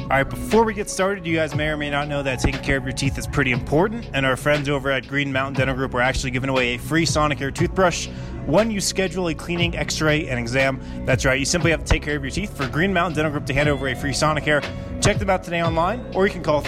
All right, before we get started, you guys may or may not know that taking care of your teeth is pretty important, and our friends over at Green Mountain Dental Group are actually giving away a free Sonicare toothbrush when you schedule a cleaning, x-ray, and exam. That's right, you simply have to take care of your teeth for Green Mountain Dental Group to hand over a free Sonicare. Check them out today online, or you can call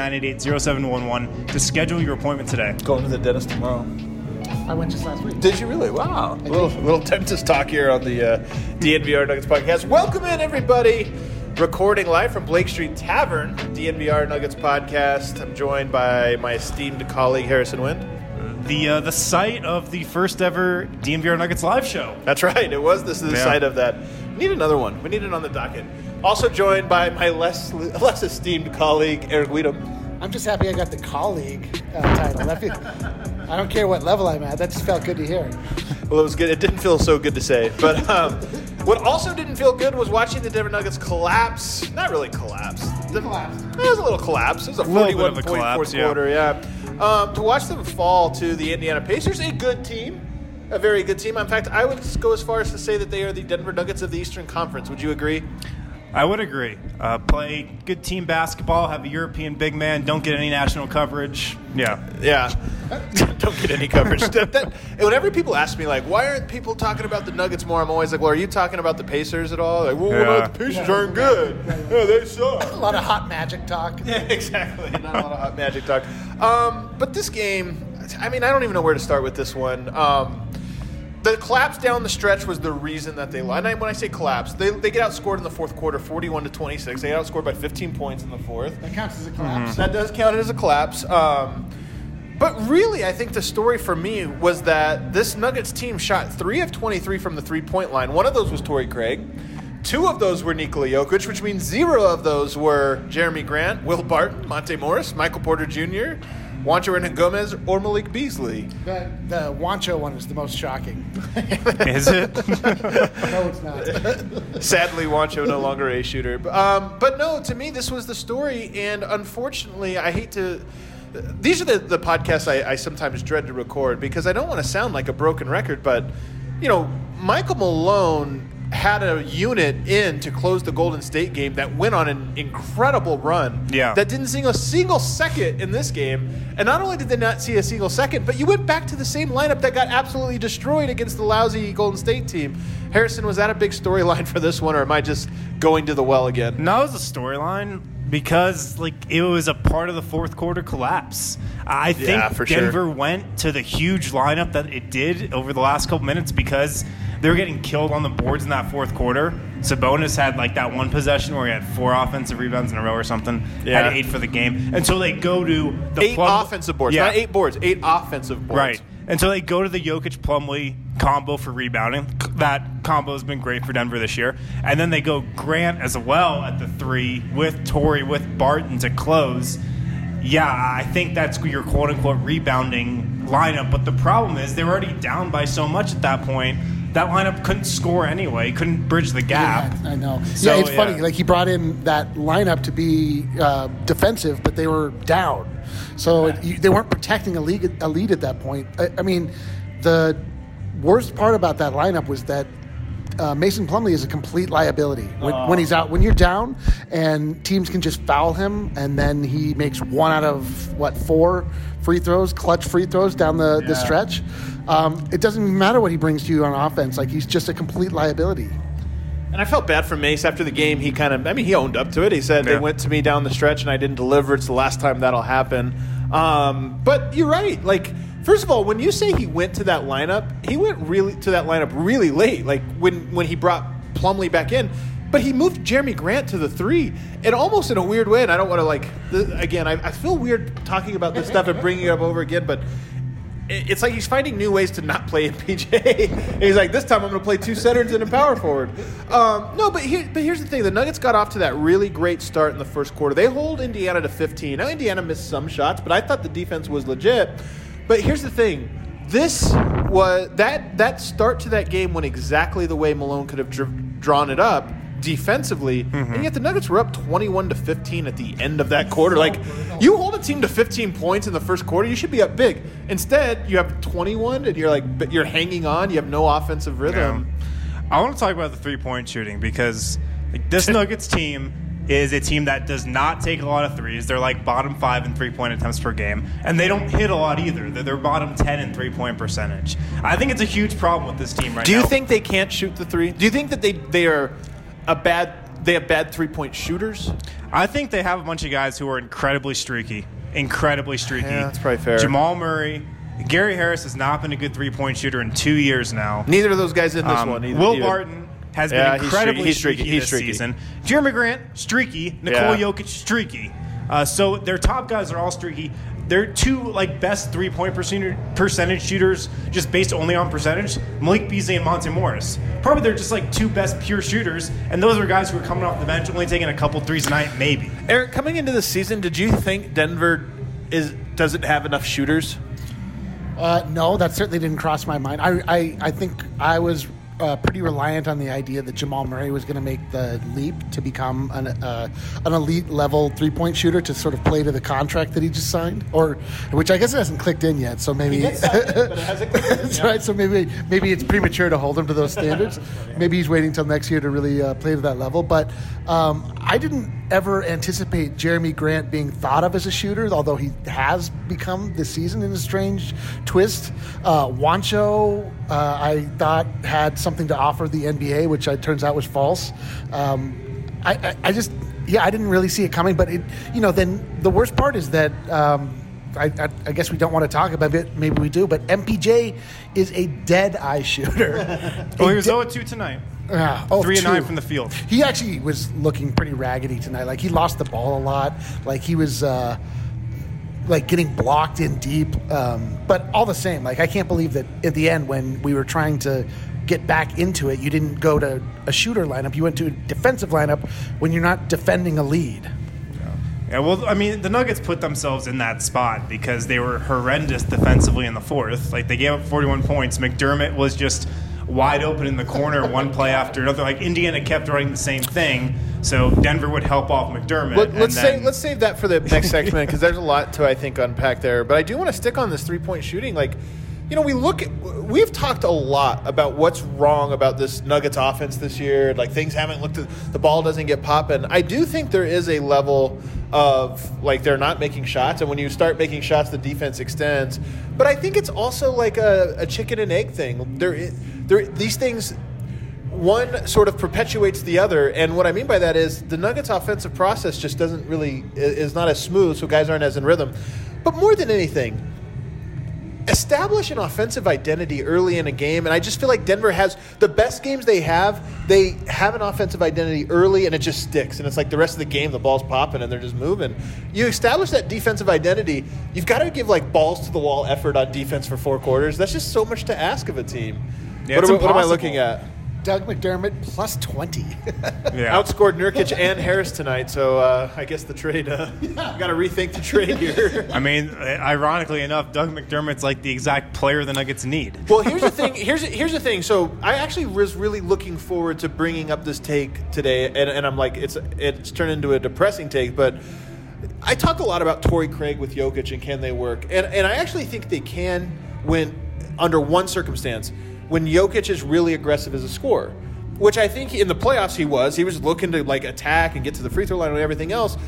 303-988-0711 to schedule your appointment today. Going to the dentist tomorrow. I went just last week. Did you really? Wow. A little dentist talk here on the DNVR Nuggets podcast. Welcome in, everybody. Recording live from Blake Street Tavern, DNVR Nuggets podcast. I'm joined by my esteemed colleague, Harrison Wind. The site of the first ever DNVR Nuggets live show. That's right. It was the site of that. We need another one. We need it on the docket. Also joined by my less esteemed colleague, Eric Weedham. I'm just happy I got the colleague title. I don't care what level I'm at. That just felt good to hear. Well, it was good. It didn't feel so good to say. But what also didn't feel good was watching the Denver Nuggets collapse. Not really collapse. It was a little collapse. It was a 41-point fourth quarter, yeah. To watch them fall to the Indiana Pacers, a good team. A very good team. In fact, I would go as far as to say that they are the Denver Nuggets of the Eastern Conference. Would you agree? I would agree. Play good team basketball, have a European big man, don't get any national coverage. Yeah. Don't get any coverage. And whenever people ask me, like, why aren't people talking about the Nuggets more, I'm always like, well, are you talking about the Pacers at all? Like, well, the Pacers aren't good. Yeah, they suck. A lot of hot magic talk. Yeah, exactly. Not a lot of hot magic talk. But this game, I mean, I don't even know where to start with this one. The collapse down the stretch was the reason that they lost. And when I say collapse, they get outscored in the fourth quarter, 41-26. They get outscored by 15 points in the fourth. That counts as a collapse. That does count as a collapse. But really, I think the story for me was that this Nuggets team shot 3 of 23 from the three-point line. One of those was Torrey Craig. 2 of those were Nikola Jokic, which means 0 of those were Jeremy Grant, Will Barton, Monte Morris, Michael Porter Jr., Juancho Hernangomez, or Malik Beasley. The Juancho one is the most shocking. Is it? No, it's not. Sadly, Juancho no longer a shooter. But no, to me, this was the story. And unfortunately, I hate to... These are the podcasts I sometimes dread to record because I don't want to sound like a broken record. But, you know, Michael Malone had a unit in to close the Golden State game that went on an incredible run. Yeah. That didn't see a single second in this game. And not only did they not see a single second, but you went back to the same lineup that got absolutely destroyed against the lousy Golden State team. Harrison, was that a big storyline for this one, or am I just going to the well again? No, it was a storyline because it was a part of the fourth quarter collapse. I think Denver went to the huge lineup that it did over the last couple minutes because they were getting killed on the boards in that fourth quarter. Sabonis had that one possession where he had 4 offensive rebounds in a row or something. Yeah. Had 8 for the game. And so they go to the 8 offensive boards, not 8 boards, 8 offensive boards. Right. And so they go to the Jokic-Plumlee combo for rebounding. That combo has been great for Denver this year. And then they go Grant as well at the 3 with Torrey, with Barton to close. Yeah, I think that's your quote-unquote rebounding lineup. But the problem is they were already down by so much at that point. That lineup couldn't score anyway. Couldn't bridge the gap. Yeah, I know. So, it's funny. He brought in that lineup to be defensive, but they were down. So they weren't protecting a lead at that point. I mean, the worst part about that lineup was that Mason Plumlee is a complete liability when he's out. When you're down and teams can just foul him, and then he makes 1 out of 4 free throws, clutch free throws down the stretch. It doesn't even matter what he brings to you on offense. He's just a complete liability. And I felt bad for Mace after the game. He he owned up to it. He said, they went to me down the stretch and I didn't deliver. It's the last time that'll happen. But you're right. First of all, when you say he went to that lineup, he went really late. When he brought Plumlee back in. But he moved Jeremy Grant to the 3, and almost in a weird way. And I don't want to again. I feel weird talking about this stuff and bringing it up over again, but it's like he's finding new ways to not play MPJ. And he's like, this time I'm going to play 2 centers and a power forward. But here's the thing. The Nuggets got off to that really great start in the first quarter. They hold Indiana to 15. Now, Indiana missed some shots, but I thought the defense was legit. But here's the thing. This was that start to that game went exactly the way Malone could have drawn it up defensively, and yet the Nuggets were up 21-15 at the end of that quarter. You hold a team to 15 points in the first quarter, you should be up big. Instead, you have 21, and you're hanging on. You have no offensive rhythm. Yeah. I want to talk about the 3-point shooting because this Nuggets team is a team that does not take a lot of threes. They're like bottom 5 in three-point attempts per game, and they don't hit a lot either. They're bottom 10 in three-point percentage. I think it's a huge problem with this team right now. Do you think they can't shoot the three? Do you think that they have bad three-point shooters? I think they have a bunch of guys who are incredibly streaky. Yeah, that's probably fair. Jamal Murray. Gary Harris has not been a good three-point shooter in 2 years now. Neither of those guys in this one. Will Barton has been incredibly streaky this streaky. season. Jeremy Grant, streaky. Nikola Jokic, streaky. So their top guys are all streaky. They're two best three-point percentage shooters just based only on percentage. Malik Beasley and Monte Morris. Probably they're just two best pure shooters, and those are guys who are coming off the bench, only taking a couple threes a night, maybe. Eric, coming into the season, did you think Denver doesn't have enough shooters? No, that certainly didn't cross my mind. I think I was pretty reliant on the idea that Jamal Murray was going to make the leap to become an elite level three-point shooter to sort of play to the contract that he just signed, which I guess it hasn't clicked in yet. So maybe but it hasn't clicked in. That's right. So maybe it's premature to hold him to those standards. Maybe he's waiting till next year to really play to that level. But I didn't ever anticipate Jeremy Grant being thought of as a shooter, although he has become this season in a strange twist. Juancho, I thought had something to offer the NBA, which turns out was false. I didn't really see it coming. But then the worst part is that I guess we don't want to talk about it. Maybe we do. But MPJ is a dead eye shooter. He was 0-2 tonight. 3-9 from the field. He actually was looking pretty raggedy tonight. He lost the ball a lot. He was getting blocked in deep. But all the same, I can't believe that at the end when we were trying to get back into it, you didn't go to a shooter lineup. You went to a defensive lineup when you're not defending a lead. Yeah, well, the Nuggets put themselves in that spot because they were horrendous defensively in the fourth. They gave up 41 points. McDermott was just wide open in the corner, one play after another. Indiana kept running the same thing, so Denver would help off McDermott. Let's save that for the next segment because there's a lot to, I think, unpack there. But I do want to stick on this three-point shooting. We've talked a lot about what's wrong about this Nuggets offense this year. Things haven't looked at, the ball doesn't get popping. I do think there is a level of they're not making shots, and when you start making shots, the defense extends. But I think it's also a chicken and egg thing. These things, one sort of perpetuates the other, and what I mean by that is the Nuggets' offensive process just is not as smooth, so guys aren't as in rhythm. But more than anything, establish an offensive identity early in a game, and I just feel like Denver has the best games they have an offensive identity early, and it just sticks. And it's the rest of the game, the ball's popping, and they're just moving. You establish that defensive identity, you've got to give balls to the wall effort on defense for 4 quarters. That's just so much to ask of a team. Yeah, what am I looking at? Doug McDermott plus 20. Outscored Nurkic and Harris tonight, so I guess the trade, got to rethink the trade here. Ironically enough, Doug McDermott's the exact player the Nuggets need. Well, here's the thing. Here's the thing. So I actually was really looking forward to bringing up this take today, and I'm it's turned into a depressing take, but I talk a lot about Torrey Craig with Jokic and can they work, and I actually think they can when under one circumstance. When Jokic is really aggressive as a scorer, which I think in the playoffs he was looking to attack and get to the free throw line and everything else.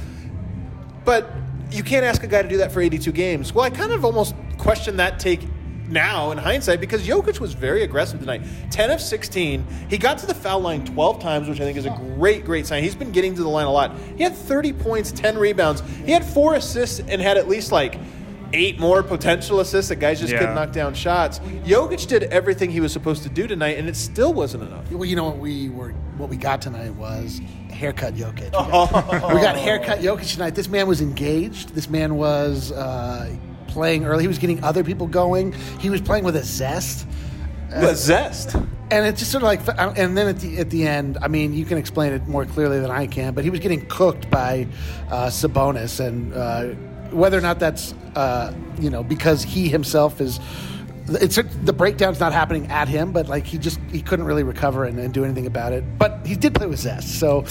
But you can't ask a guy to do that for 82 games. Well, I kind of almost question that take now in hindsight because Jokic was very aggressive tonight. 10 of 16. He got to the foul line 12 times, which I think is a great sign. He's been getting to the line a lot. He had 30 points, 10 rebounds. He had 4 assists and had at least 8 more potential assists that guys just couldn't knock down shots. Jokic did everything he was supposed to do tonight, and it still wasn't enough. Well, what we got tonight was haircut Jokic. We got haircut Jokic tonight. This man was engaged. This man was playing early. He was getting other people going. He was playing with a zest. A zest. And it's just sort of and then at the end, you can explain it more clearly than I can, but he was getting cooked by Sabonis, and whether or not that's because he himself is, the breakdown's not happening at him, but he couldn't really recover and do anything about it. But he did play with zest. So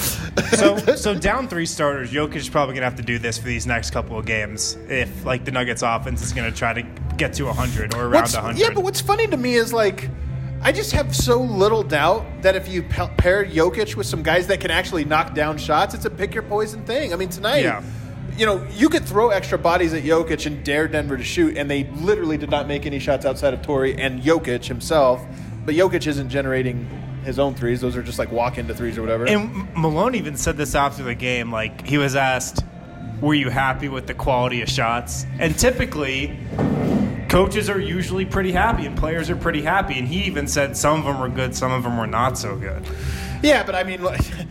down 3 starters, Jokic is probably gonna have to do this for these next couple of games if the Nuggets offense is gonna try to get to 100 or around 100. Yeah, but what's funny to me is I just have so little doubt that if you pair Jokic with some guys that can actually knock down shots, it's a pick your poison thing. I mean, tonight, you could throw extra bodies at Jokic and dare Denver to shoot, and they literally did not make any shots outside of Torrey and Jokic himself. But Jokic isn't generating his own threes. Those are just like walk-into threes or whatever. And Malone even said this after the game. Like, he was asked, were you happy with the quality of shots? And typically, coaches are usually pretty happy and players are pretty happy. And he even said some of them were good, some of them were not so good. Yeah, but I mean,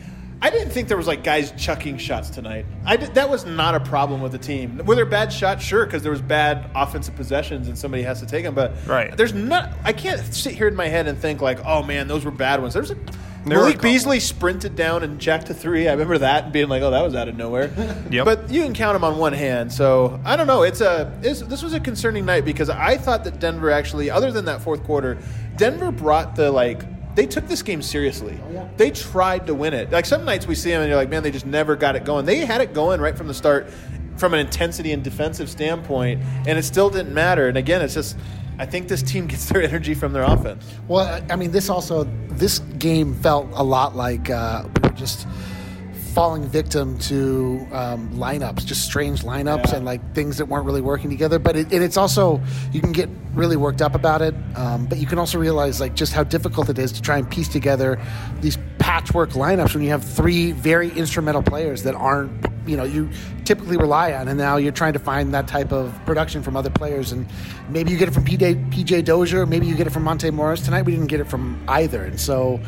I didn't think there was like guys chucking shots tonight. That was not a problem with the team. Were there bad shots? Sure, because there was bad offensive possessions and somebody has to take them. But there's not. I can't sit here in my head and think like, oh man, those were bad ones. Malik Beasley sprinted down and jacked a three. I remember that and being like, oh, that was out of nowhere. Yep. But you can count them on one hand. So I don't know. This was a concerning night because I thought that Denver actually, other than that fourth quarter, Denver brought they took this game seriously. Oh, yeah. They tried to win it. Like some nights we see them and you're like, man, they just never got it going. They had it going right from the start from an intensity and defensive standpoint, and it still didn't matter. And again, it's just I think this team gets their energy from their offense. Well, I mean, this game felt a lot like we were just falling victim to lineups, just strange lineups and like things that weren't really working together. But it's also, you can get really worked up about it, but you can also realize like just how difficult it is to try and piece together these patchwork lineups when you have three very instrumental players that aren't, you typically rely on, and now you're trying to find that type of production from other players, and maybe you get it from PJ Dozier, maybe you get it from Monte Morris. Tonight we didn't get it from either, and so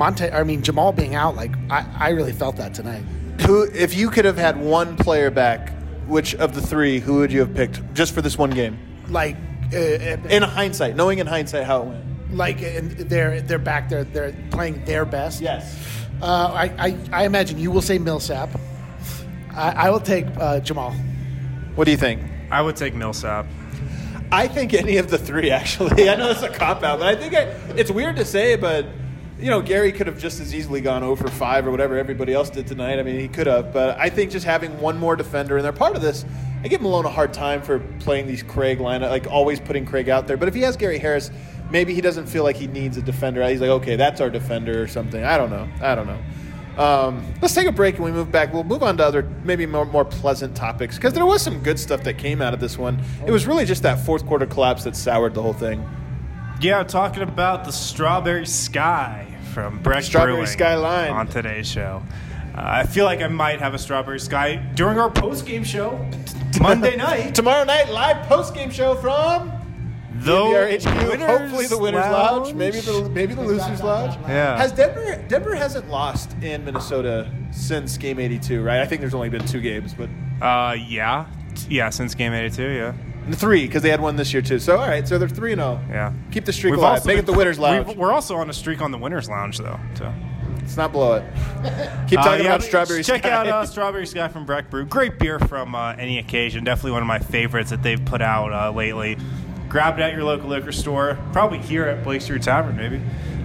Jamal being out, like I really felt that tonight. If you could have had one player back, which of the three, who would you have picked just for this one game? Like in hindsight, knowing in hindsight how it went. Like they're back there, they're playing their best. Yes. I imagine you will say Millsap. I will take Jamal. What do you think? I would take Millsap. I think any of the three, actually. I know it's a cop-out, but I think it's weird to say, but, Gary could have just as easily gone 0 for 5 or whatever everybody else did tonight. I mean, he could have. But I think just having one more defender, and they're part of this, I give Malone a hard time for playing these Craig lineup, like always putting Craig out there. But if he has Gary Harris, maybe he doesn't feel like he needs a defender. He's like, okay, that's our defender or something. I don't know. Let's take a break and we move back. We'll move on to other, maybe more pleasant topics, because there was some good stuff that came out of this one. It was really just that fourth quarter collapse that soured the whole thing. Yeah, talking about the Strawberry Sky from Breck Strawberry Brewing Skyline on today's show. I feel like I might have a Strawberry Sky during our post-game show Monday night. Tomorrow night, live post-game show from DNVR HQ. Hopefully the Winners Lounge. Maybe the Losers Lounge. Yeah. Has Denver hasn't lost in Minnesota since Game 82, right? I think there's only been 2 games, but yeah, since Game 82, yeah. 3, because they had one this year too. So all right, so they're 3-0. Yeah. Keep the streak alive. Make it the Winners Lounge. We're also on a streak on the Winners Lounge though. So. Let's not blow it. Keep talking about Strawberry Sky. Check out Strawberry Sky from Breck Brew. Great beer from any occasion. Definitely one of my favorites that they've put out lately. Grab it at your local liquor store. Probably here at Blake Street Tavern, maybe.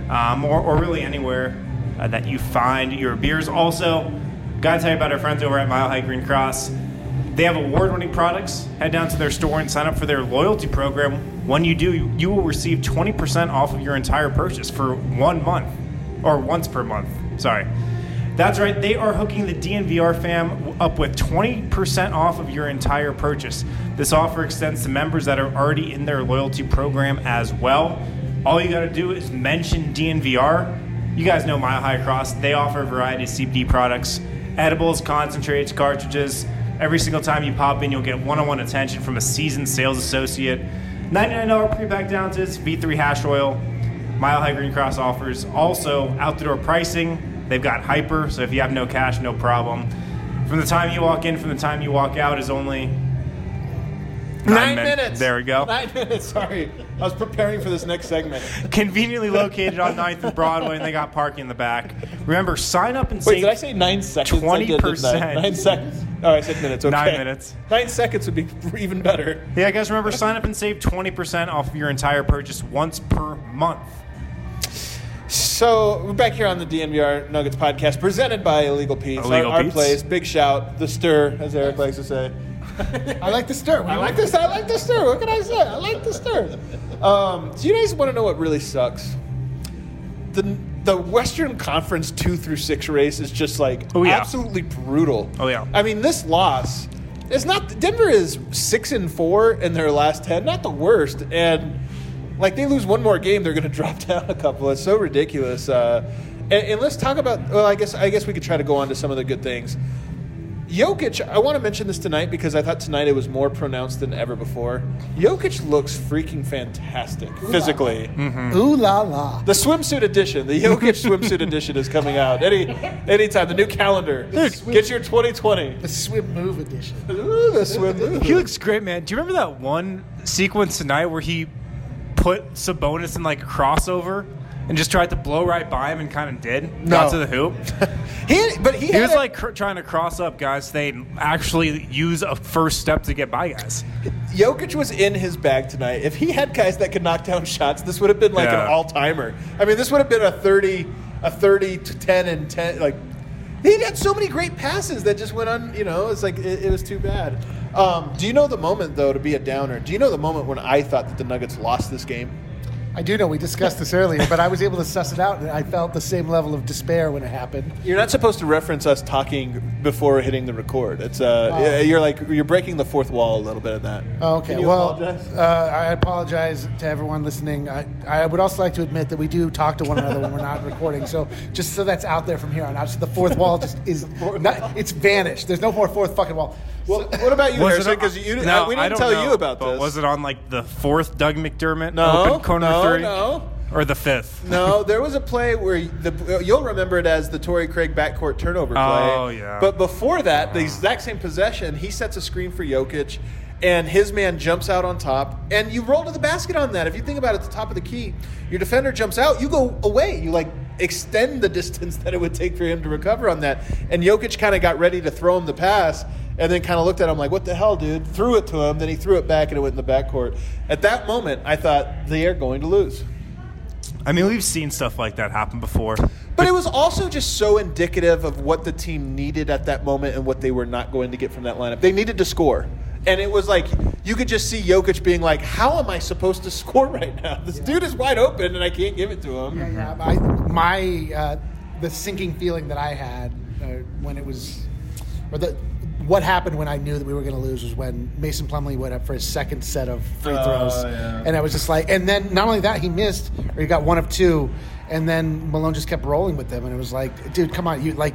Or really anywhere that you find your beers. Also, got to tell you about our friends over at Mile High Green Cross. They have award-winning products. Head down to their store and sign up for their loyalty program. When you do, you will receive 20% off of your entire purchase for 1 month. Or once per month. Sorry. That's right. They are hooking the DNVR fam up with 20% off of your entire purchase. This offer extends to members that are already in their loyalty program as well. All you got to do is mention DNVR. You guys know Mile High Cross. They offer a variety of CBD products, edibles, concentrates, cartridges. Every single time you pop in, you'll get one-on-one attention from a seasoned sales associate. $99 pre-packed ounces, V3 hash oil. Mile High Green Cross offers also out-the-door pricing. They've got Hyper, so if you have no cash, no problem. From the time you walk in, from the time you walk out is only 9 minutes. There we go. 9 minutes, sorry. I was preparing for this next segment. Conveniently located on 9th and Broadway, and they got parking in the back. Remember, sign up and save 20%. Wait, did I say 9 seconds? 9 seconds. Oh, I said minutes. Okay. 9 minutes. 9 seconds would be even better. Yeah, guys, remember, sign up and save 20% off of your entire purchase once per month. So we're back here on the DNVR Nuggets podcast, presented by Illegal Pete's. Our place. Big shout, the stir, as Eric likes to say. I like the stir. I like the stir. What can I say? I like the stir. So you guys want to know what really sucks? the Western Conference 2 through 6 race is just like absolutely brutal. Oh yeah. I mean, this loss is not. Denver is 6-4 in their last 10, not the worst, and like they lose one more game, they're going to drop down a couple. It's so ridiculous. And let's talk about. Well, I guess we could try to go on to some of the good things. Jokic, I want to mention this tonight because I thought tonight it was more pronounced than ever before. Jokic looks freaking fantastic physically. Mm-hmm. Ooh la la. The swimsuit edition, the Jokic swimsuit edition is coming out anytime. The new calendar. Get your 2020. The swim move edition. Ooh, the swim move. He looks great, man. Do you remember that one sequence tonight where he put Sabonis in like a crossover and just tried to blow right by him and kind of did? Got to the hoop. He was like trying to cross up guys. They actually use a first step to get by guys. Jokic was in his bag tonight. If he had guys that could knock down shots, this would have been like an all-timer. I mean, this would have been a 30 to 10 and 10. Like he had so many great passes that just went on. It's like it was too bad. Do you know the moment though? To be a downer, do you know the moment when I thought that the Nuggets lost this game? I do know we discussed this earlier, but I was able to suss it out, and I felt the same level of despair when it happened. You're not supposed to reference us talking before hitting the record. It's you're breaking the fourth wall a little bit of that. Oh, okay. Can you apologize? I apologize to everyone listening. I would also like to admit that we do talk to one another when we're not recording. So just so that's out there from here on out. So the fourth wall just is it's vanished. There's no more fourth fucking wall. Well, what about you, Harrison? Because we didn't tell you about this. But was it on like the fourth Doug McDermott open corner three? No. Or the fifth? No, there was a play where you'll remember it as the Torrey Craig backcourt turnover play. Oh, yeah. But before that, the exact same possession, he sets a screen for Jokic, and his man jumps out on top, and you roll to the basket on that. If you think about it, at the top of the key, your defender jumps out, you go away. You extend the distance that it would take for him to recover on that. And Jokic kind of got ready to throw him the pass, and then kind of looked at him like, what the hell, dude? Threw it to him, then he threw it back, and it went in the backcourt. At that moment, I thought, they are going to lose. I mean, we've seen stuff like that happen before. But it was also just so indicative of what the team needed at that moment and what they were not going to get from that lineup. They needed to score. And it was like, you could just see Jokic being like, how am I supposed to score right now? This dude is wide open, and I can't give it to him. Yeah. The sinking feeling that I had when it was – what happened when I knew that we were going to lose was when Mason Plumlee went up for his second set of free throws. Yeah. And I was just like – and then not only that, he missed, or he got one of two, and then Malone just kept rolling with them. And it was like, dude, come on. Your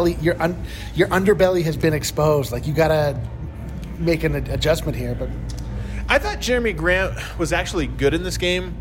underbelly has been exposed. Like, you got to make an adjustment here. But I thought Jeremy Grant was actually good in this game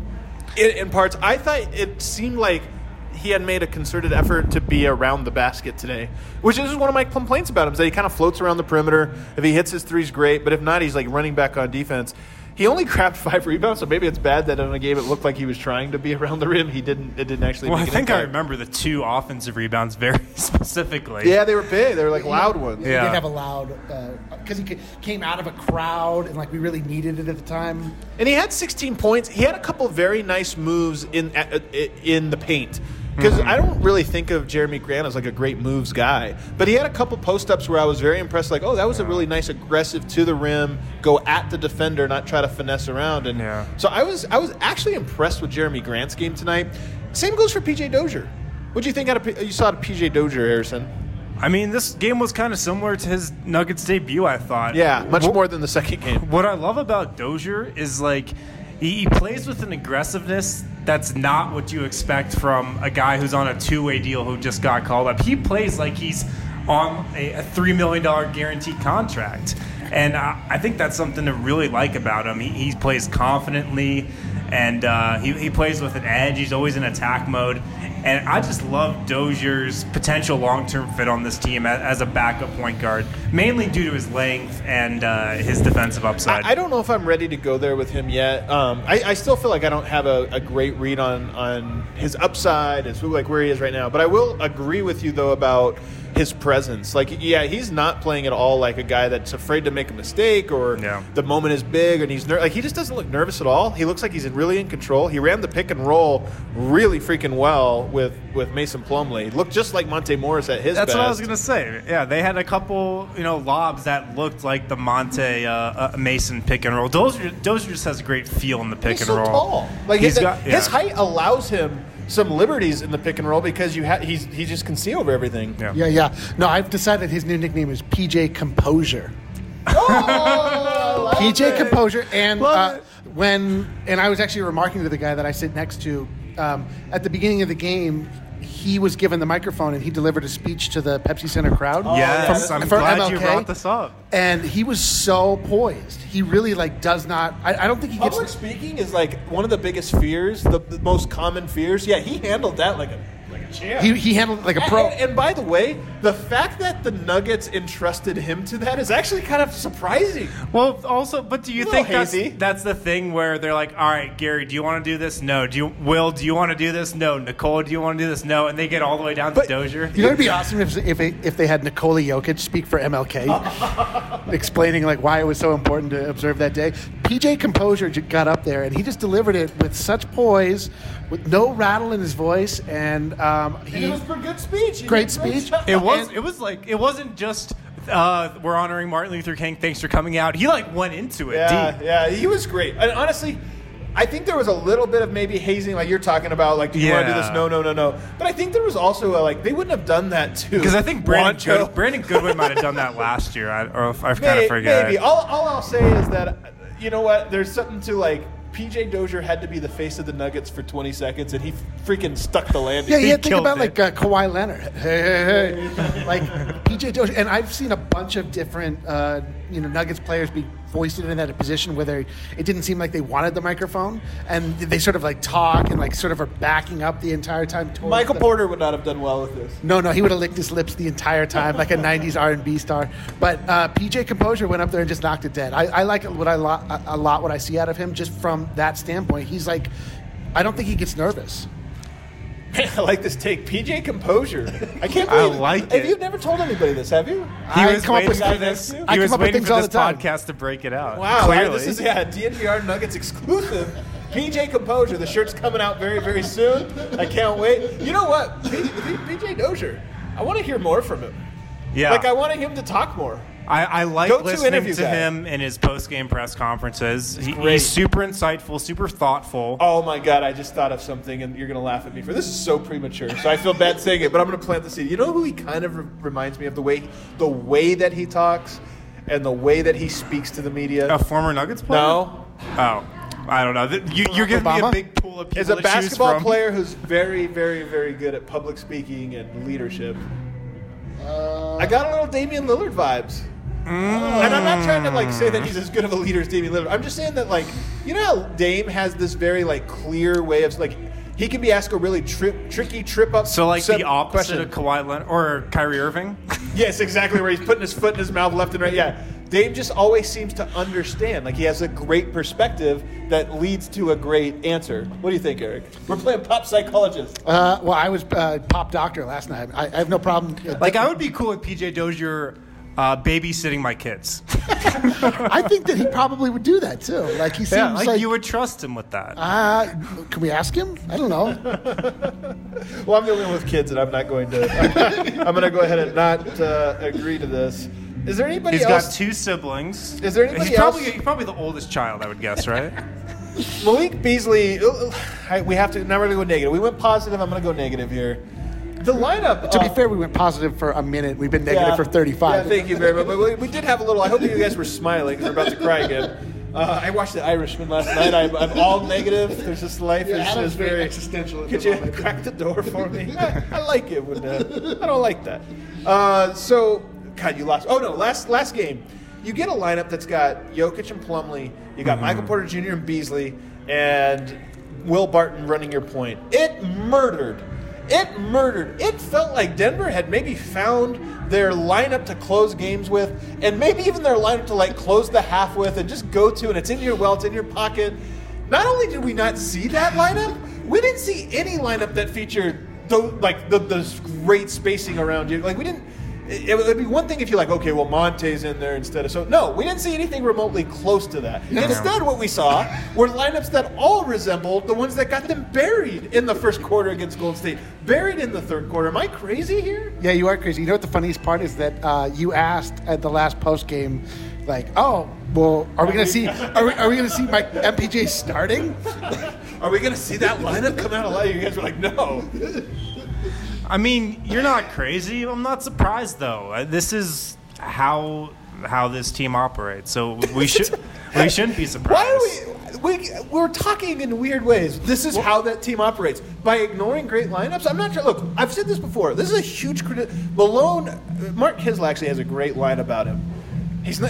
in parts. I thought it seemed like he had made a concerted effort to be around the basket today, which is one of my complaints about him, is that he kind of floats around the perimeter. If he hits his threes, great, but if not, he's like running back on defense. He only grabbed 5 rebounds, so maybe it's bad that in a game it looked like he was trying to be around the rim. It didn't actually. Well, make I think I remember the 2 offensive rebounds very specifically. Yeah, they were big. They were like loud ones. He did have a loud because he came out of a crowd and like we really needed it at the time. And he had 16 points. He had a couple of very nice moves in the paint. Because I don't really think of Jeremy Grant as like a great moves guy. But he had a couple post-ups where I was very impressed. Like, oh, that was a really nice aggressive to the rim, go at the defender, not try to finesse around. And so I was actually impressed with Jeremy Grant's game tonight. Same goes for P.J. Dozier. What do you think you saw out of P.J. Dozier, Harrison? I mean, this game was kind of similar to his Nuggets debut, I thought. Yeah, much more than the second game. What I love about Dozier is like he plays with an aggressiveness that's not what you expect from a guy who's on a 2-way deal who just got called up. He plays like he's on a $3 million guaranteed contract. And I think that's something to really like about him. He plays confidently, and he plays with an edge. He's always in attack mode. And I just love Dozier's potential long-term fit on this team as a backup point guard, mainly due to his length and his defensive upside. I don't know if I'm ready to go there with him yet. I still feel like I don't have a great read on his upside and where he is right now. But I will agree with you, though, about his presence. Like, yeah, he's not playing at all like a guy that's afraid to make a mistake or the moment is big and he's he just doesn't look nervous at all. He looks like he's really in control. He ran the pick and roll really freaking well with Mason Plumlee. Looked just like Monte Morris at his best. That's what I was going to say. Yeah, they had a couple, lobs that looked like the Monte Mason pick and roll. Dozier just has a great feel in the pick and roll. He's so tall. Like his height allows him some liberties in the pick and roll because he just can see over everything. Yeah. No, I've decided his new nickname is PJ Composure. Oh, PJ Composure, and I was actually remarking to the guy that I sit next to at the beginning of the game. He was given the microphone and he delivered a speech to the Pepsi Center crowd. Yes, I'm glad MLK, you brought this up. And he was so poised. He really does not. I don't think he gets. Public speaking is one of the biggest fears, the most common fears. Yeah, he handled that like a champ. He handled it like a pro. And by the way, the fact that the Nuggets entrusted him to that is actually kind of surprising. Well, also, but do you think hazy. that's the thing where they're like, all right, Gary, do you want to do this? No. Will, do you want to do this? No. Nicole, do you want to do this? No. And they get all the way down to Dozier. You know, it'd be awesome if they had Nikola Jokic speak for MLK, explaining why it was so important to observe that day. PJ Composure got up there and he just delivered it with such poise, with no rattle in his voice, and it was a good speech. Great speech. It wasn't just we're honoring Martin Luther King. Thanks for coming out. He went into it deep. Yeah, he was great. And honestly, I think there was a little bit of maybe hazing, like you're talking about, do you want to do this? No. But I think there was also they wouldn't have done that too. Because I think Brandon Goodwin might have done that last year. I kind of forget. Maybe. All I'll say is that, you know what? There's something to PJ Dozier had to be the face of the Nuggets for 20 seconds, and he freaking stuck the landing. Yeah, you think about Kawhi Leonard. Hey. PJ Dozier. And I've seen a bunch of different Nuggets players be foisted in that position where it didn't seem like they wanted the microphone, and they sort of talk and sort of are backing up the entire time. Michael Porter would not have done well with this. No, he would have licked his lips the entire time like a 90s R&B star. But PJ Composure went up there and just knocked it dead. I like a lot what I see out of him just from that standpoint. He's I don't think he gets nervous. Man, I like this take. PJ Composure. I can't believe. I like it. You've never told anybody this, have you? He was waiting for this. He was waiting for this podcast to break it out. Wow, clearly. This is DNVR Nuggets exclusive. PJ Composure. The shirt's coming out very, very soon. I can't wait. You know what? PJ Dozier. I want to hear more from him. Yeah. I wanted him to talk more. I like listening to him in his post-game press conferences. He's super insightful, super thoughtful. Oh, my God. I just thought of something, and you're going to laugh at me for this. Is so premature, so I feel bad saying it, but I'm going to plant the seed. You know who he kind of reminds me of? The way that he talks and the way that he speaks to the media? A former Nuggets player? No. Oh. I don't know. You're giving me a big pool of people As a basketball player who's very, very, very good at public speaking and leadership, I got a little Damian Lillard vibes. And I'm not trying to say that he's as good of a leader as Damian Lillard. I'm just saying that you know how Dame has this very clear way of he can be asked a really tricky trip up. So the opposite of Kawhi Leonard or Kyrie Irving. Yes, exactly, where he's putting his foot in his mouth left and right. Yeah, Dame just always seems to understand. He has a great perspective that leads to a great answer. What do you think, Eric? We're playing pop psychologist. Well, I was pop doctor last night. I have no problem. I would be cool with PJ Dozier babysitting my kids. I think that he probably would do that too. He seems you would trust him with that. Can we ask him? I don't know. Well, I'm the only one with kids, and I'm not going to. I'm going to go ahead and not agree to this. Is there anybody else? He's got two siblings. Is there anybody else? He's probably the oldest child, I would guess, right? Malik Beasley. We have to. Now we're going to go negative. We went positive. I'm going to go negative here. The lineup. To be fair, we went positive for a minute. We've been negative for 35. Yeah, thank you very much. But we did have a little. I hope you guys were smiling because we're about to cry again. I watched The Irishman last night. I'm all negative. There's this life is very existential. Could you crack the door for me? I like it when I don't like that. So, God, you lost. Oh no, last game. You get a lineup that's got Jokic and Plumlee. You got Michael Porter Jr. and Beasley, and Will Barton running your point. It murdered. It felt like Denver had maybe found their lineup to close games with, and maybe even their lineup to close the half with and just go to, and it's in your it's in your pocket. Not only did we not see that lineup, we didn't see any lineup that featured the great spacing around you. We didn't. It would be one thing if you're okay, well, Monte's in there instead of... So, no, we didn't see anything remotely close to that. No. Instead, what we saw were lineups that all resembled the ones that got them buried in the first quarter against Golden State. Buried in the third quarter. Am I crazy here? Yeah, you are crazy. You know what the funniest part is that you asked at the last post game, are we going to see Mike MPJ starting? are we going to see that lineup come out alive? You guys were like, no. I mean, you're not crazy. I'm not surprised, though. This is how this team operates. So we shouldn't be surprised. Why are we're talking in weird ways. This is how that team operates. By ignoring great lineups, I'm not sure. Look, I've said this before. This is a huge Malone, Mark Kisel actually has a great line about him. He's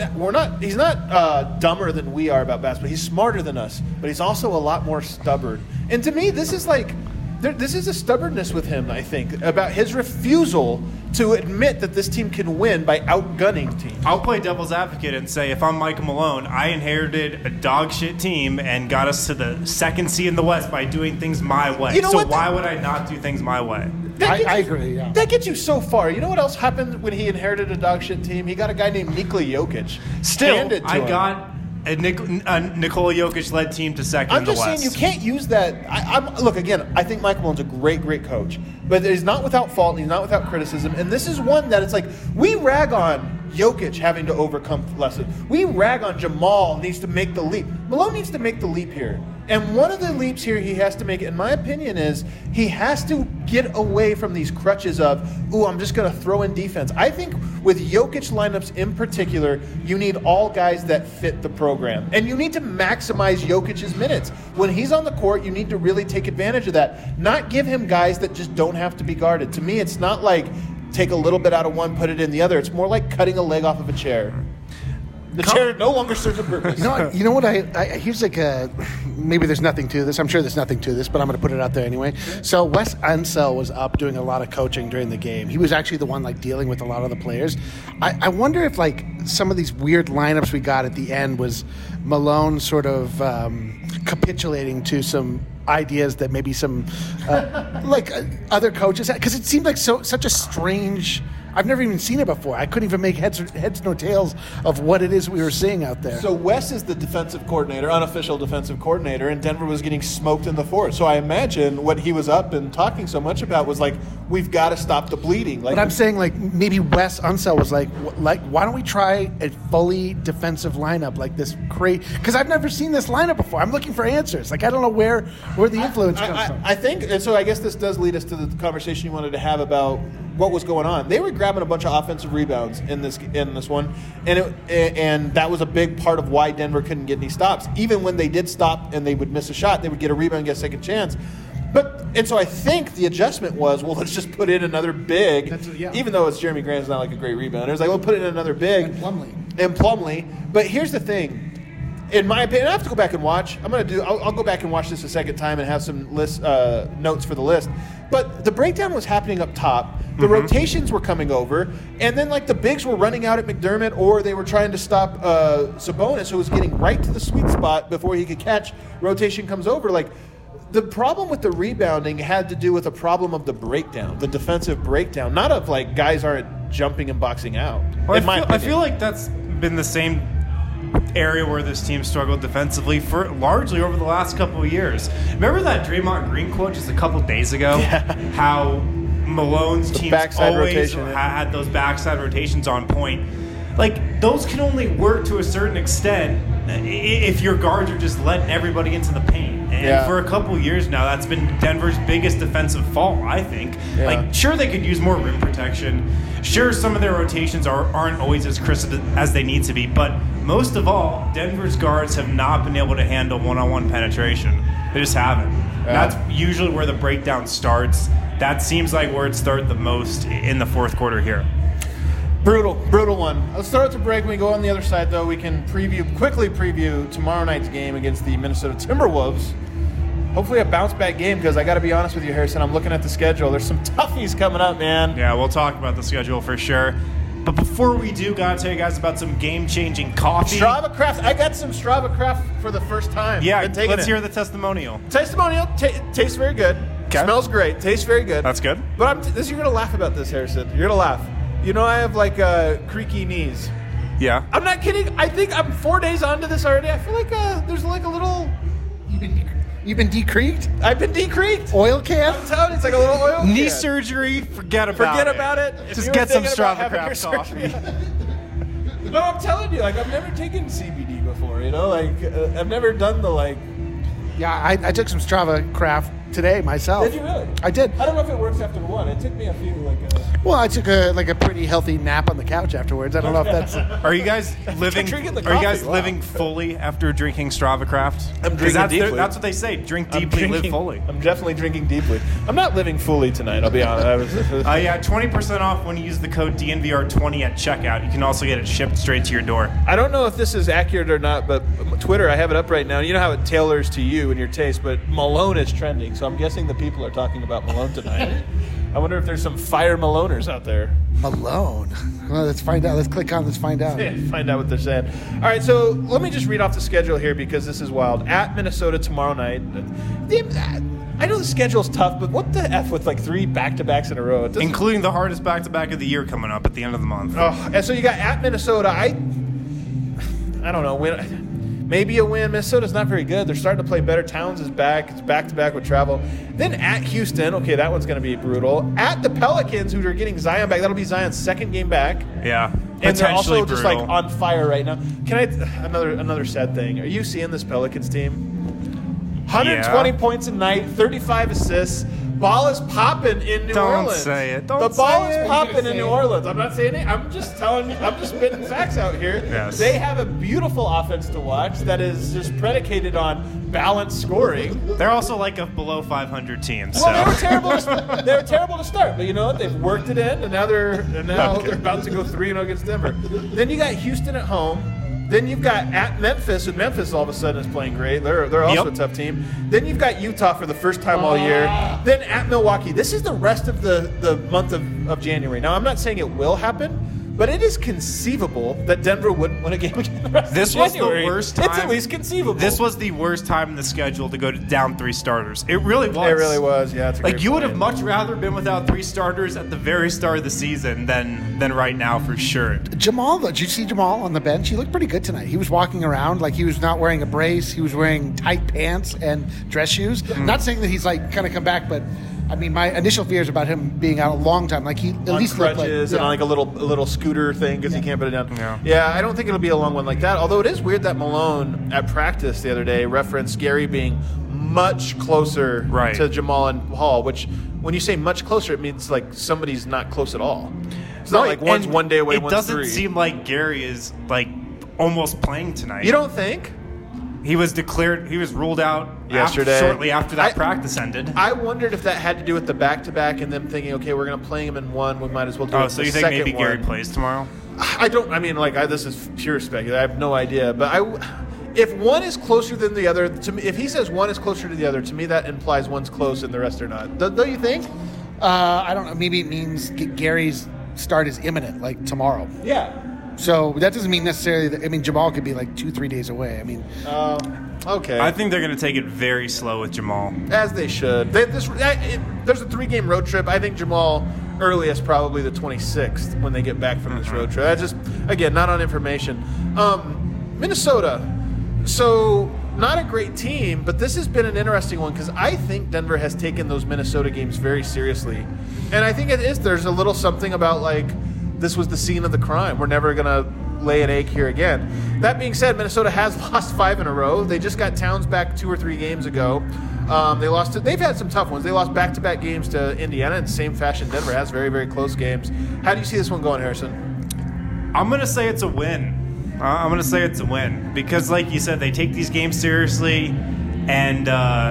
not dumber than we are about basketball. He's smarter than us, but he's also a lot more stubborn. And to me, this is a stubbornness with him, I think, about his refusal to admit that this team can win by outgunning teams. I'll play devil's advocate and say if I'm Michael Malone, I inherited a dog shit team and got us to the second seed in the West by doing things my way. You know so why would I not do things my way? I agree, yeah. That gets you so far. You know what else happened when he inherited a dog shit team? He got a guy named Nikola Jokic. I got a Nikola Jokic-led team to second in the West. I'm just saying you can't use that. Look, again, I think Michael Malone's a great, great coach. But he's not without fault, and he's not without criticism. And this is one that it's like, we rag on Jokic having to overcome lessons. We rag on Jamal needs to make the leap. Malone needs to make the leap here. And one of the leaps here he has to make, in my opinion, is he has to get away from these crutches of, I'm just going to throw in defense. I think with Jokic lineups in particular, you need all guys that fit the program. And you need to maximize Jokic's minutes. When he's on the court, you need to really take advantage of that. Not give him guys that just don't have to be guarded. To me, it's not like take a little bit out of one, put it in the other. It's more like cutting a leg off of a chair. The chair no longer serves a purpose. You know what? Here's like maybe there's nothing to this. I'm sure there's nothing to this, but I'm going to put it out there anyway. So Wes Unseld was up doing a lot of coaching during the game. He was actually the one dealing with a lot of the players. I wonder if some of these weird lineups we got at the end was Malone sort of capitulating to some ideas that maybe some other coaches had, because it seemed like such a strange. I've never even seen it before. I couldn't even make heads nor tails of what it is we were seeing out there. So Wes is the defensive coordinator, unofficial defensive coordinator, and Denver was getting smoked in the fourth. So I imagine what he was up and talking so much about was we've got to stop the bleeding. But I'm saying maybe Wes Unseld was like, why don't we try a fully defensive lineup like this? Because I've never seen this lineup before. I'm looking for answers. I don't know where the influence comes from. I think, and so I guess this does lead us to the conversation you wanted to have about what was going on. They were grabbing a bunch of offensive rebounds in this one, and that was a big part of why Denver couldn't get any stops. Even when they did stop and they would miss a shot, they would get a rebound and get a second chance. And so I think the adjustment was, let's just put in another big, even though it's Jeremy Grant's not a great rebounder. It's we'll put in another big. And Plumlee. But here's the thing. In my opinion, I have to go back and watch. I'll go back and watch this a second time and have some notes for the list. But the breakdown was happening up top. The rotations were coming over, and then the bigs were running out at McDermott, or they were trying to stop Sabonis, who was getting right to the sweet spot before he could catch. Rotation comes over. The problem with the rebounding had to do with a problem of the breakdown, the defensive breakdown, not of guys aren't jumping and boxing out. Well, I feel like that's been the same area where this team struggled defensively for largely over the last couple of years. Remember that Draymond Green quote just a couple days ago? Yeah. How Malone's teams always had those backside rotations on point. Those can only work to a certain extent if your guards are just letting everybody into the paint. And for a couple of years now, that's been Denver's biggest defensive fault, I think. Yeah. Sure, they could use more rim protection. Sure, some of their rotations aren't always as crisp as they need to be. But most of all, Denver's guards have not been able to handle one-on-one penetration. They just haven't. Yeah. That's usually where the breakdown starts. That seems like where it started the most in the fourth quarter here. Brutal one. Let's start at the break. When we go on the other side, though, we can quickly preview tomorrow night's game against the Minnesota Timberwolves. Hopefully a bounce-back game, because I got to be honest with you, Harrison, I'm looking at the schedule. There's some toughies coming up, man. Yeah, we'll talk about the schedule for sure. But before we do, got to tell you guys about some game-changing coffee. Strava Craft. I got some Strava Craft for the first time. Yeah, let's hear the testimonial. Tastes very good. Okay. Smells great. Tastes very good. That's good. But you're going to laugh about this, Harrison. You're going to laugh. You know I have creaky knees. Yeah. I'm not kidding. I think I'm 4 days onto this already. I feel like there's a little... You've been decreaked? I've been decreaked. Oil can? I'm telling you, it's like a little oil can. Knee surgery, forget about it. Just get some Strava Craft coffee. No, I'm telling you, I've never taken CBD before, I've never done the Yeah, I took some Strava craft today myself. Did you really? I did. I don't know if it works after one. It took me a few Well, I took a pretty healthy nap on the couch afterwards. I don't know if that's. Are you guys living? Drinking the Are you guys coffee, wow. living fully after drinking Strava Craft? I'm drinking deeply. That's what they say. Drink deeply, live fully. I'm definitely drinking deeply. I'm not living fully tonight. I'll be honest. Yeah, 20% off when you use the code DNVR20 at checkout. You can also get it shipped straight to your door. I don't know if this is accurate or not, but Twitter, I have it up right now. You know how it tailors to you and your taste, but Malone is trending, so I'm guessing the people are talking about Malone tonight. I wonder if there's some fire Maloners out there. Malone. Well, let's find out. Let's click on. Let's find out. Yeah, find out what they're saying. All right, so let me just read off the schedule here because this is wild. At Minnesota tomorrow night. I know the schedule's tough, but what the F with like 3 back-to-backs in a row? Including the hardest back-to-back of the year coming up at the end of the month. Oh, and so you got at Minnesota. I don't know. Maybe a win. Minnesota's not very good. They're starting to play better. Towns is back. It's back-to-back with travel. Then at Houston. Okay, that one's going to be brutal. At the Pelicans, who are getting Zion back. That'll be Zion's second game back. Yeah, and they're also just brutal. like on fire right now. Can I? Another sad thing. Are you seeing this Pelicans team? 120 points a night, 35 assists. Ball is popping in New Orleans. Don't say it. The ball is popping in New Orleans. I'm not saying it. I'm just telling you. I'm just spitting facts out here. Yes. They have a beautiful offense to watch that is just predicated on balanced scoring. They're also like a below 500 team. Well, they were terrible. They were terrible to start, but you know what? They've worked it in, and now they're about to go 3-0 against Denver. Then you got Houston at home. Then you've got at Memphis, and Memphis all of a sudden is playing great. They're also a tough team. Then you've got Utah for the first time all year. Then at Milwaukee. This is the rest of the month of January. Now, I'm not saying it will happen, but it is conceivable that Denver wouldn't win a game again the rest This of was January. the worst time. It's at least conceivable. This was the worst time in the schedule to go down 3 starters. It really was. It really was. Yeah, it's a like great you would point. have much rather been without 3 starters at the very start of the season than right now for sure. Jamal, though, did you see Jamal on the bench? He looked pretty good tonight. He was walking around like he was not wearing a brace. He was wearing tight pants and dress shoes. Not saying that he's like kind of come back, but I mean, my initial fears about him being out a long time, like he at on least looked like crutches and on like a little scooter thing because he can't put it down. Yeah. I don't think it'll be a long one like that. Although it is weird that Malone at practice the other day referenced Gary being much closer to Jamal and Hall. Which, when you say much closer, it means like somebody's not close at all. It's not like one's 1 day away, one's 3. It doesn't seem like Gary is like almost playing tonight. You don't think? He was ruled out yesterday, shortly after that practice ended. I wondered if that had to do with the back-to-back and them thinking, okay, we're going to play him in one. We might as well do it. So you think maybe Gary plays tomorrow? I don't. I mean, this is pure speculation. I have no idea. But if one is closer than the other, to me, if he says one is closer to the other, to me that implies one's close and the rest are not. Don't you think? I don't know. Maybe it means Gary's start is imminent, like tomorrow. Yeah. So that doesn't mean necessarily that. I mean, Jamal could be like 2-3 days away. I mean, okay. I think they're going to take it very slow with Jamal, as they should. There's a 3-game road trip. I think Jamal earliest probably the 26th when they get back from this road trip. That's just again not on information. Minnesota. So not a great team, but this has been an interesting one because I think Denver has taken those Minnesota games very seriously, and I think it is. There's a little something about like. This was the scene of the crime. We're never going to lay an egg here again. That being said, Minnesota has lost 5 in a row. They just got Towns back 2 or 3 games ago. They've had some tough ones. They lost back-to-back games to Indiana in the same fashion. Denver has very, very close games. How do you see this one going, Harrison? I'm going to say it's a win. Because, like you said, they take these games seriously, and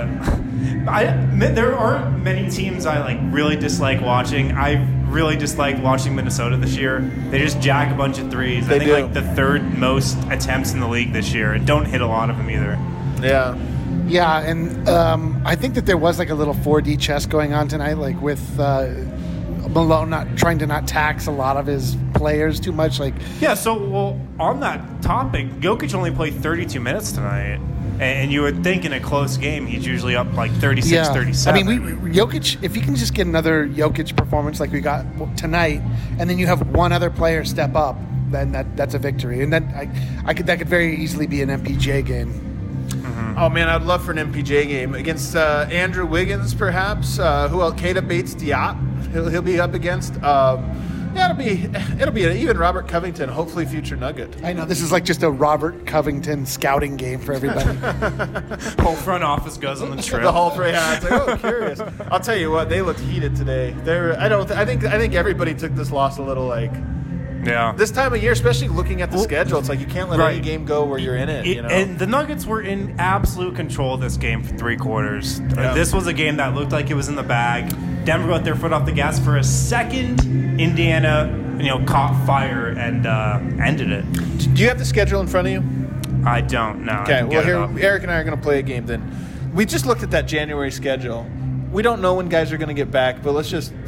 there aren't many teams I really dislike watching. I really dislike watching Minnesota this year. They just jack a bunch of threes. I think the 3rd most attempts in the league this year, and don't hit a lot of them either. Yeah. Yeah, and I think that there was like a little 4D chess going on tonight, like with Malone not trying to not tax a lot of his players too much. So on that topic, Jokic only played 32 minutes tonight. And you would think in a close game, he's usually up like 36, 37. I mean, Jokic, if you can just get another Jokic performance like we got tonight, and then you have one other player step up, then that's a victory. And then that could very easily be an MPJ game. Mm-hmm. Oh, man, I'd love for an MPJ game against Andrew Wiggins, perhaps. Who else? Keita Bates-Diop, he'll be up against. Yeah, it'll be even Robert Covington, hopefully future Nugget. I know this is like just a Robert Covington scouting game for everybody. Whole front office goes on the trip. The whole three. Yeah, it's like, curious. I'll tell you what, they looked heated today. I think everybody took this loss a little like. Yeah. This time of year, especially looking at the schedule, it's like you can't let any game go where you're in it. And the Nuggets were in absolute control of this game for 3 quarters. Yeah. This was a game that looked like it was in the bag. Denver got their foot off the gas for a second. Indiana, caught fire and ended it. Do you have the schedule in front of you? I don't know. Okay, well, here, Eric and I are going to play a game then. We just looked at that January schedule. We don't know when guys are going to get back, but let's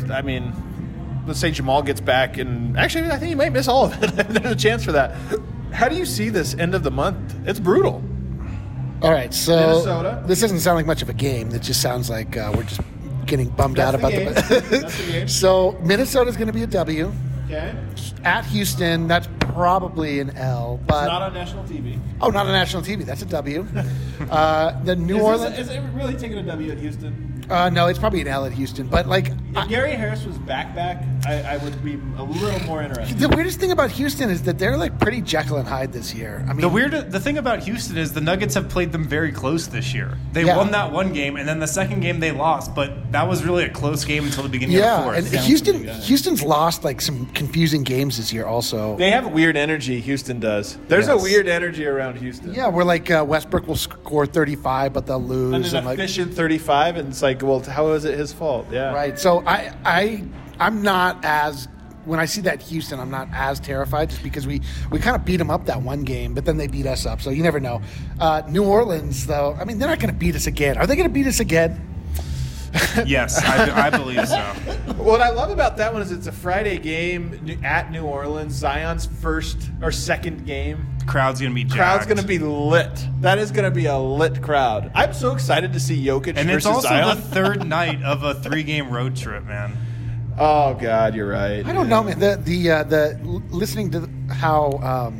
say Jamal gets back, and actually, I think he might miss all of it. There's a chance for that. How do you see this end of the month? It's brutal. All right, so Minnesota. This doesn't sound like much of a game. It just sounds like we're just getting bummed out about the That's the game. So Minnesota's going to be a W. Okay. At Houston, that's probably an L. But it's not on national TV. Oh, not on national TV. That's a W. The New Orleans. Is it really taking a W at Houston? No, it's probably an L at Houston. But if Gary Harris was back, I would be a little more interested. The weirdest thing about Houston is that they're like pretty Jekyll and Hyde this year. I mean, the thing about Houston is the Nuggets have played them very close this year. They won that one game, and then the second game they lost, but that was really a close game until the beginning of the fourth. And Houston's lost like some confusing games this year. Also, they have a weird energy. Houston does. There's a weird energy around Houston. Yeah, where like Westbrook will score 35, but they'll lose. And an efficient 35, and it's like, well, how is it his fault? Yeah, right. So I'm not as. When I see that Houston, I'm not as terrified just because we kind of beat them up that one game, but then they beat us up, so you never know. New Orleans, though, I mean, they're not going to beat us again. Are they going to beat us again? Yes, I believe so. What I love about that one is it's a Friday game at New Orleans, Zion's first or second game. Crowd's going to be jacked. Crowd's going to be lit. That is going to be a lit crowd. I'm so excited to see Jokic and versus Zion. And it's also the third night of a 3-game road trip, man. Oh God, you're right. I don't know, man. The listening to how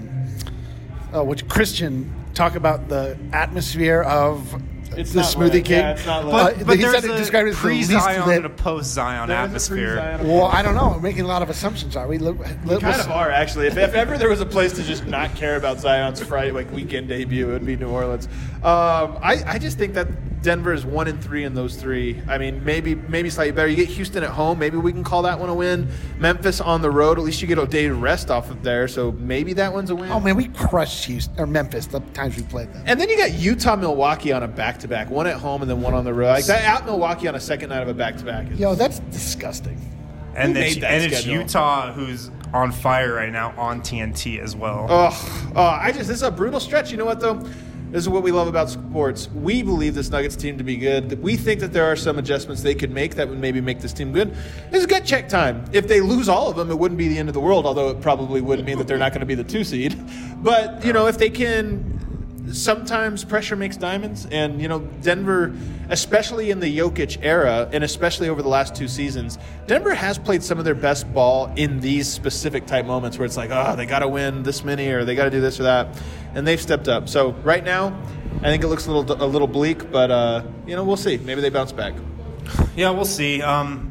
Christian talk about the atmosphere of the Smoothie King. Yeah, it's not but he said it described as pre-Zion and a post-Zion atmosphere. Well, I don't know. We're making a lot of assumptions, are we? We kind of are, actually. If ever there was a place to just not care about Zion's weekend debut, it would be New Orleans. I just think that Denver is 1-3 in those 3. I mean, maybe slightly better. You get Houston at home. Maybe we can call that one a win. Memphis on the road. At least you get a day to rest off of there. So maybe that one's a win. Oh, man, we crushed Houston or Memphis the times we played them. And then you got Utah, Milwaukee on a back-to-back. One at home and then one on the road. Like that out Milwaukee on a second night of a back-to-back. That's disgusting. And it's Utah who's on fire right now on TNT as well. This is a brutal stretch. You know what, though? This is what we love about sports. We believe this Nuggets team to be good. We think that there are some adjustments they could make that would maybe make this team good. It's gut check time. If they lose all of them, it wouldn't be the end of the world, although it probably would mean that they're not going to be the 2 seed. But, if they can... Sometimes pressure makes diamonds, and Denver, especially in the Jokic era, and especially over the last 2 seasons, Denver has played some of their best ball in these specific type moments where it's like, they got to win this many, or they got to do this or that, and they've stepped up. So right now, I think it looks a little bleak, but we'll see. Maybe they bounce back. Yeah, we'll see.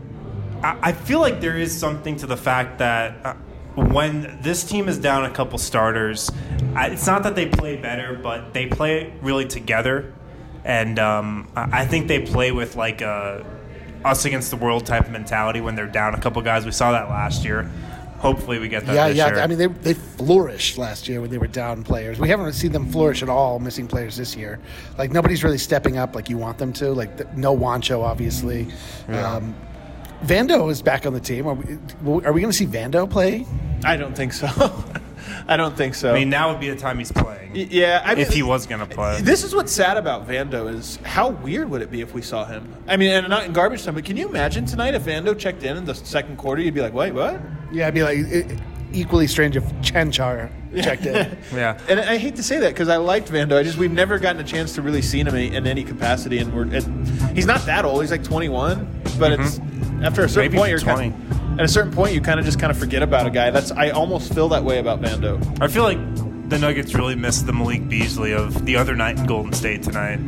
I feel like there is something to the fact that. When this team is down a couple starters, it's not that they play better, but they play really together. And I think they play with like a us against the world type of mentality when they're down a couple guys. We saw that last year. Hopefully we get that this year. I mean, they flourished last year when they were down players. We haven't seen them flourish at all, missing players this year. Like, nobody's really stepping up like you want them to. Like, no Juancho, obviously. Yeah. Vando is back on the team. Are we going to see Vando play? I don't think so. I don't think so. I mean, now would be the time he's playing. Yeah, I mean, if he was going to play. This is what's sad about Vando is how weird would it be if we saw him? I mean, and not in garbage time, but can you imagine tonight if Vando checked in the second quarter? You'd be like, wait, what? Yeah, I'd be like, equally strange if Chenchar checked in. Yeah. And I hate to say that because I liked Vando. We've never gotten a chance to really see him in any capacity, and he's not that old. He's like 21, but it's after a certain point you're 20. At a certain point you kind of forget about a guy. I almost feel that way about Vando. I feel like the Nuggets really missed the Malik Beasley of the other night in Golden State tonight.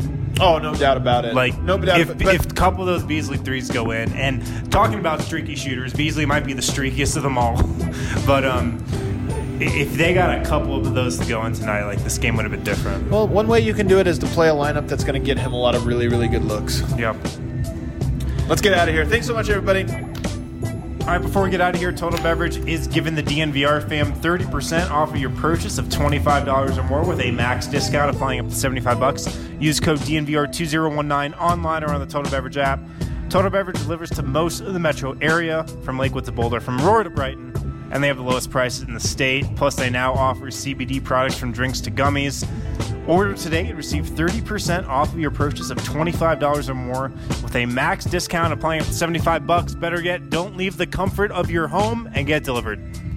Oh, no doubt about it. Like, no doubt if a couple of those Beasley threes go in, and talking about streaky shooters, Beasley might be the streakiest of them all. But if they got a couple of those to go in tonight, like, this game would have been different. Well, one way you can do it is to play a lineup that's going to get him a lot of really, really good looks. Yep. Let's get out of here. Thanks so much, everybody. All right, before we get out of here, Total Beverage is giving the DNVR fam 30% off of your purchase of $25 or more with a max discount applying up to $75. Use code DNVR2019 online or on the Total Beverage app. Total Beverage delivers to most of the metro area, from Lakewood to Boulder, from Aurora to Brighton, and they have the lowest prices in the state. Plus, they now offer CBD products from drinks to gummies. Order today and receive 30% off of your purchase of $25 or more with a max discount applying up to $75. Better yet, don't leave the comfort of your home and get delivered.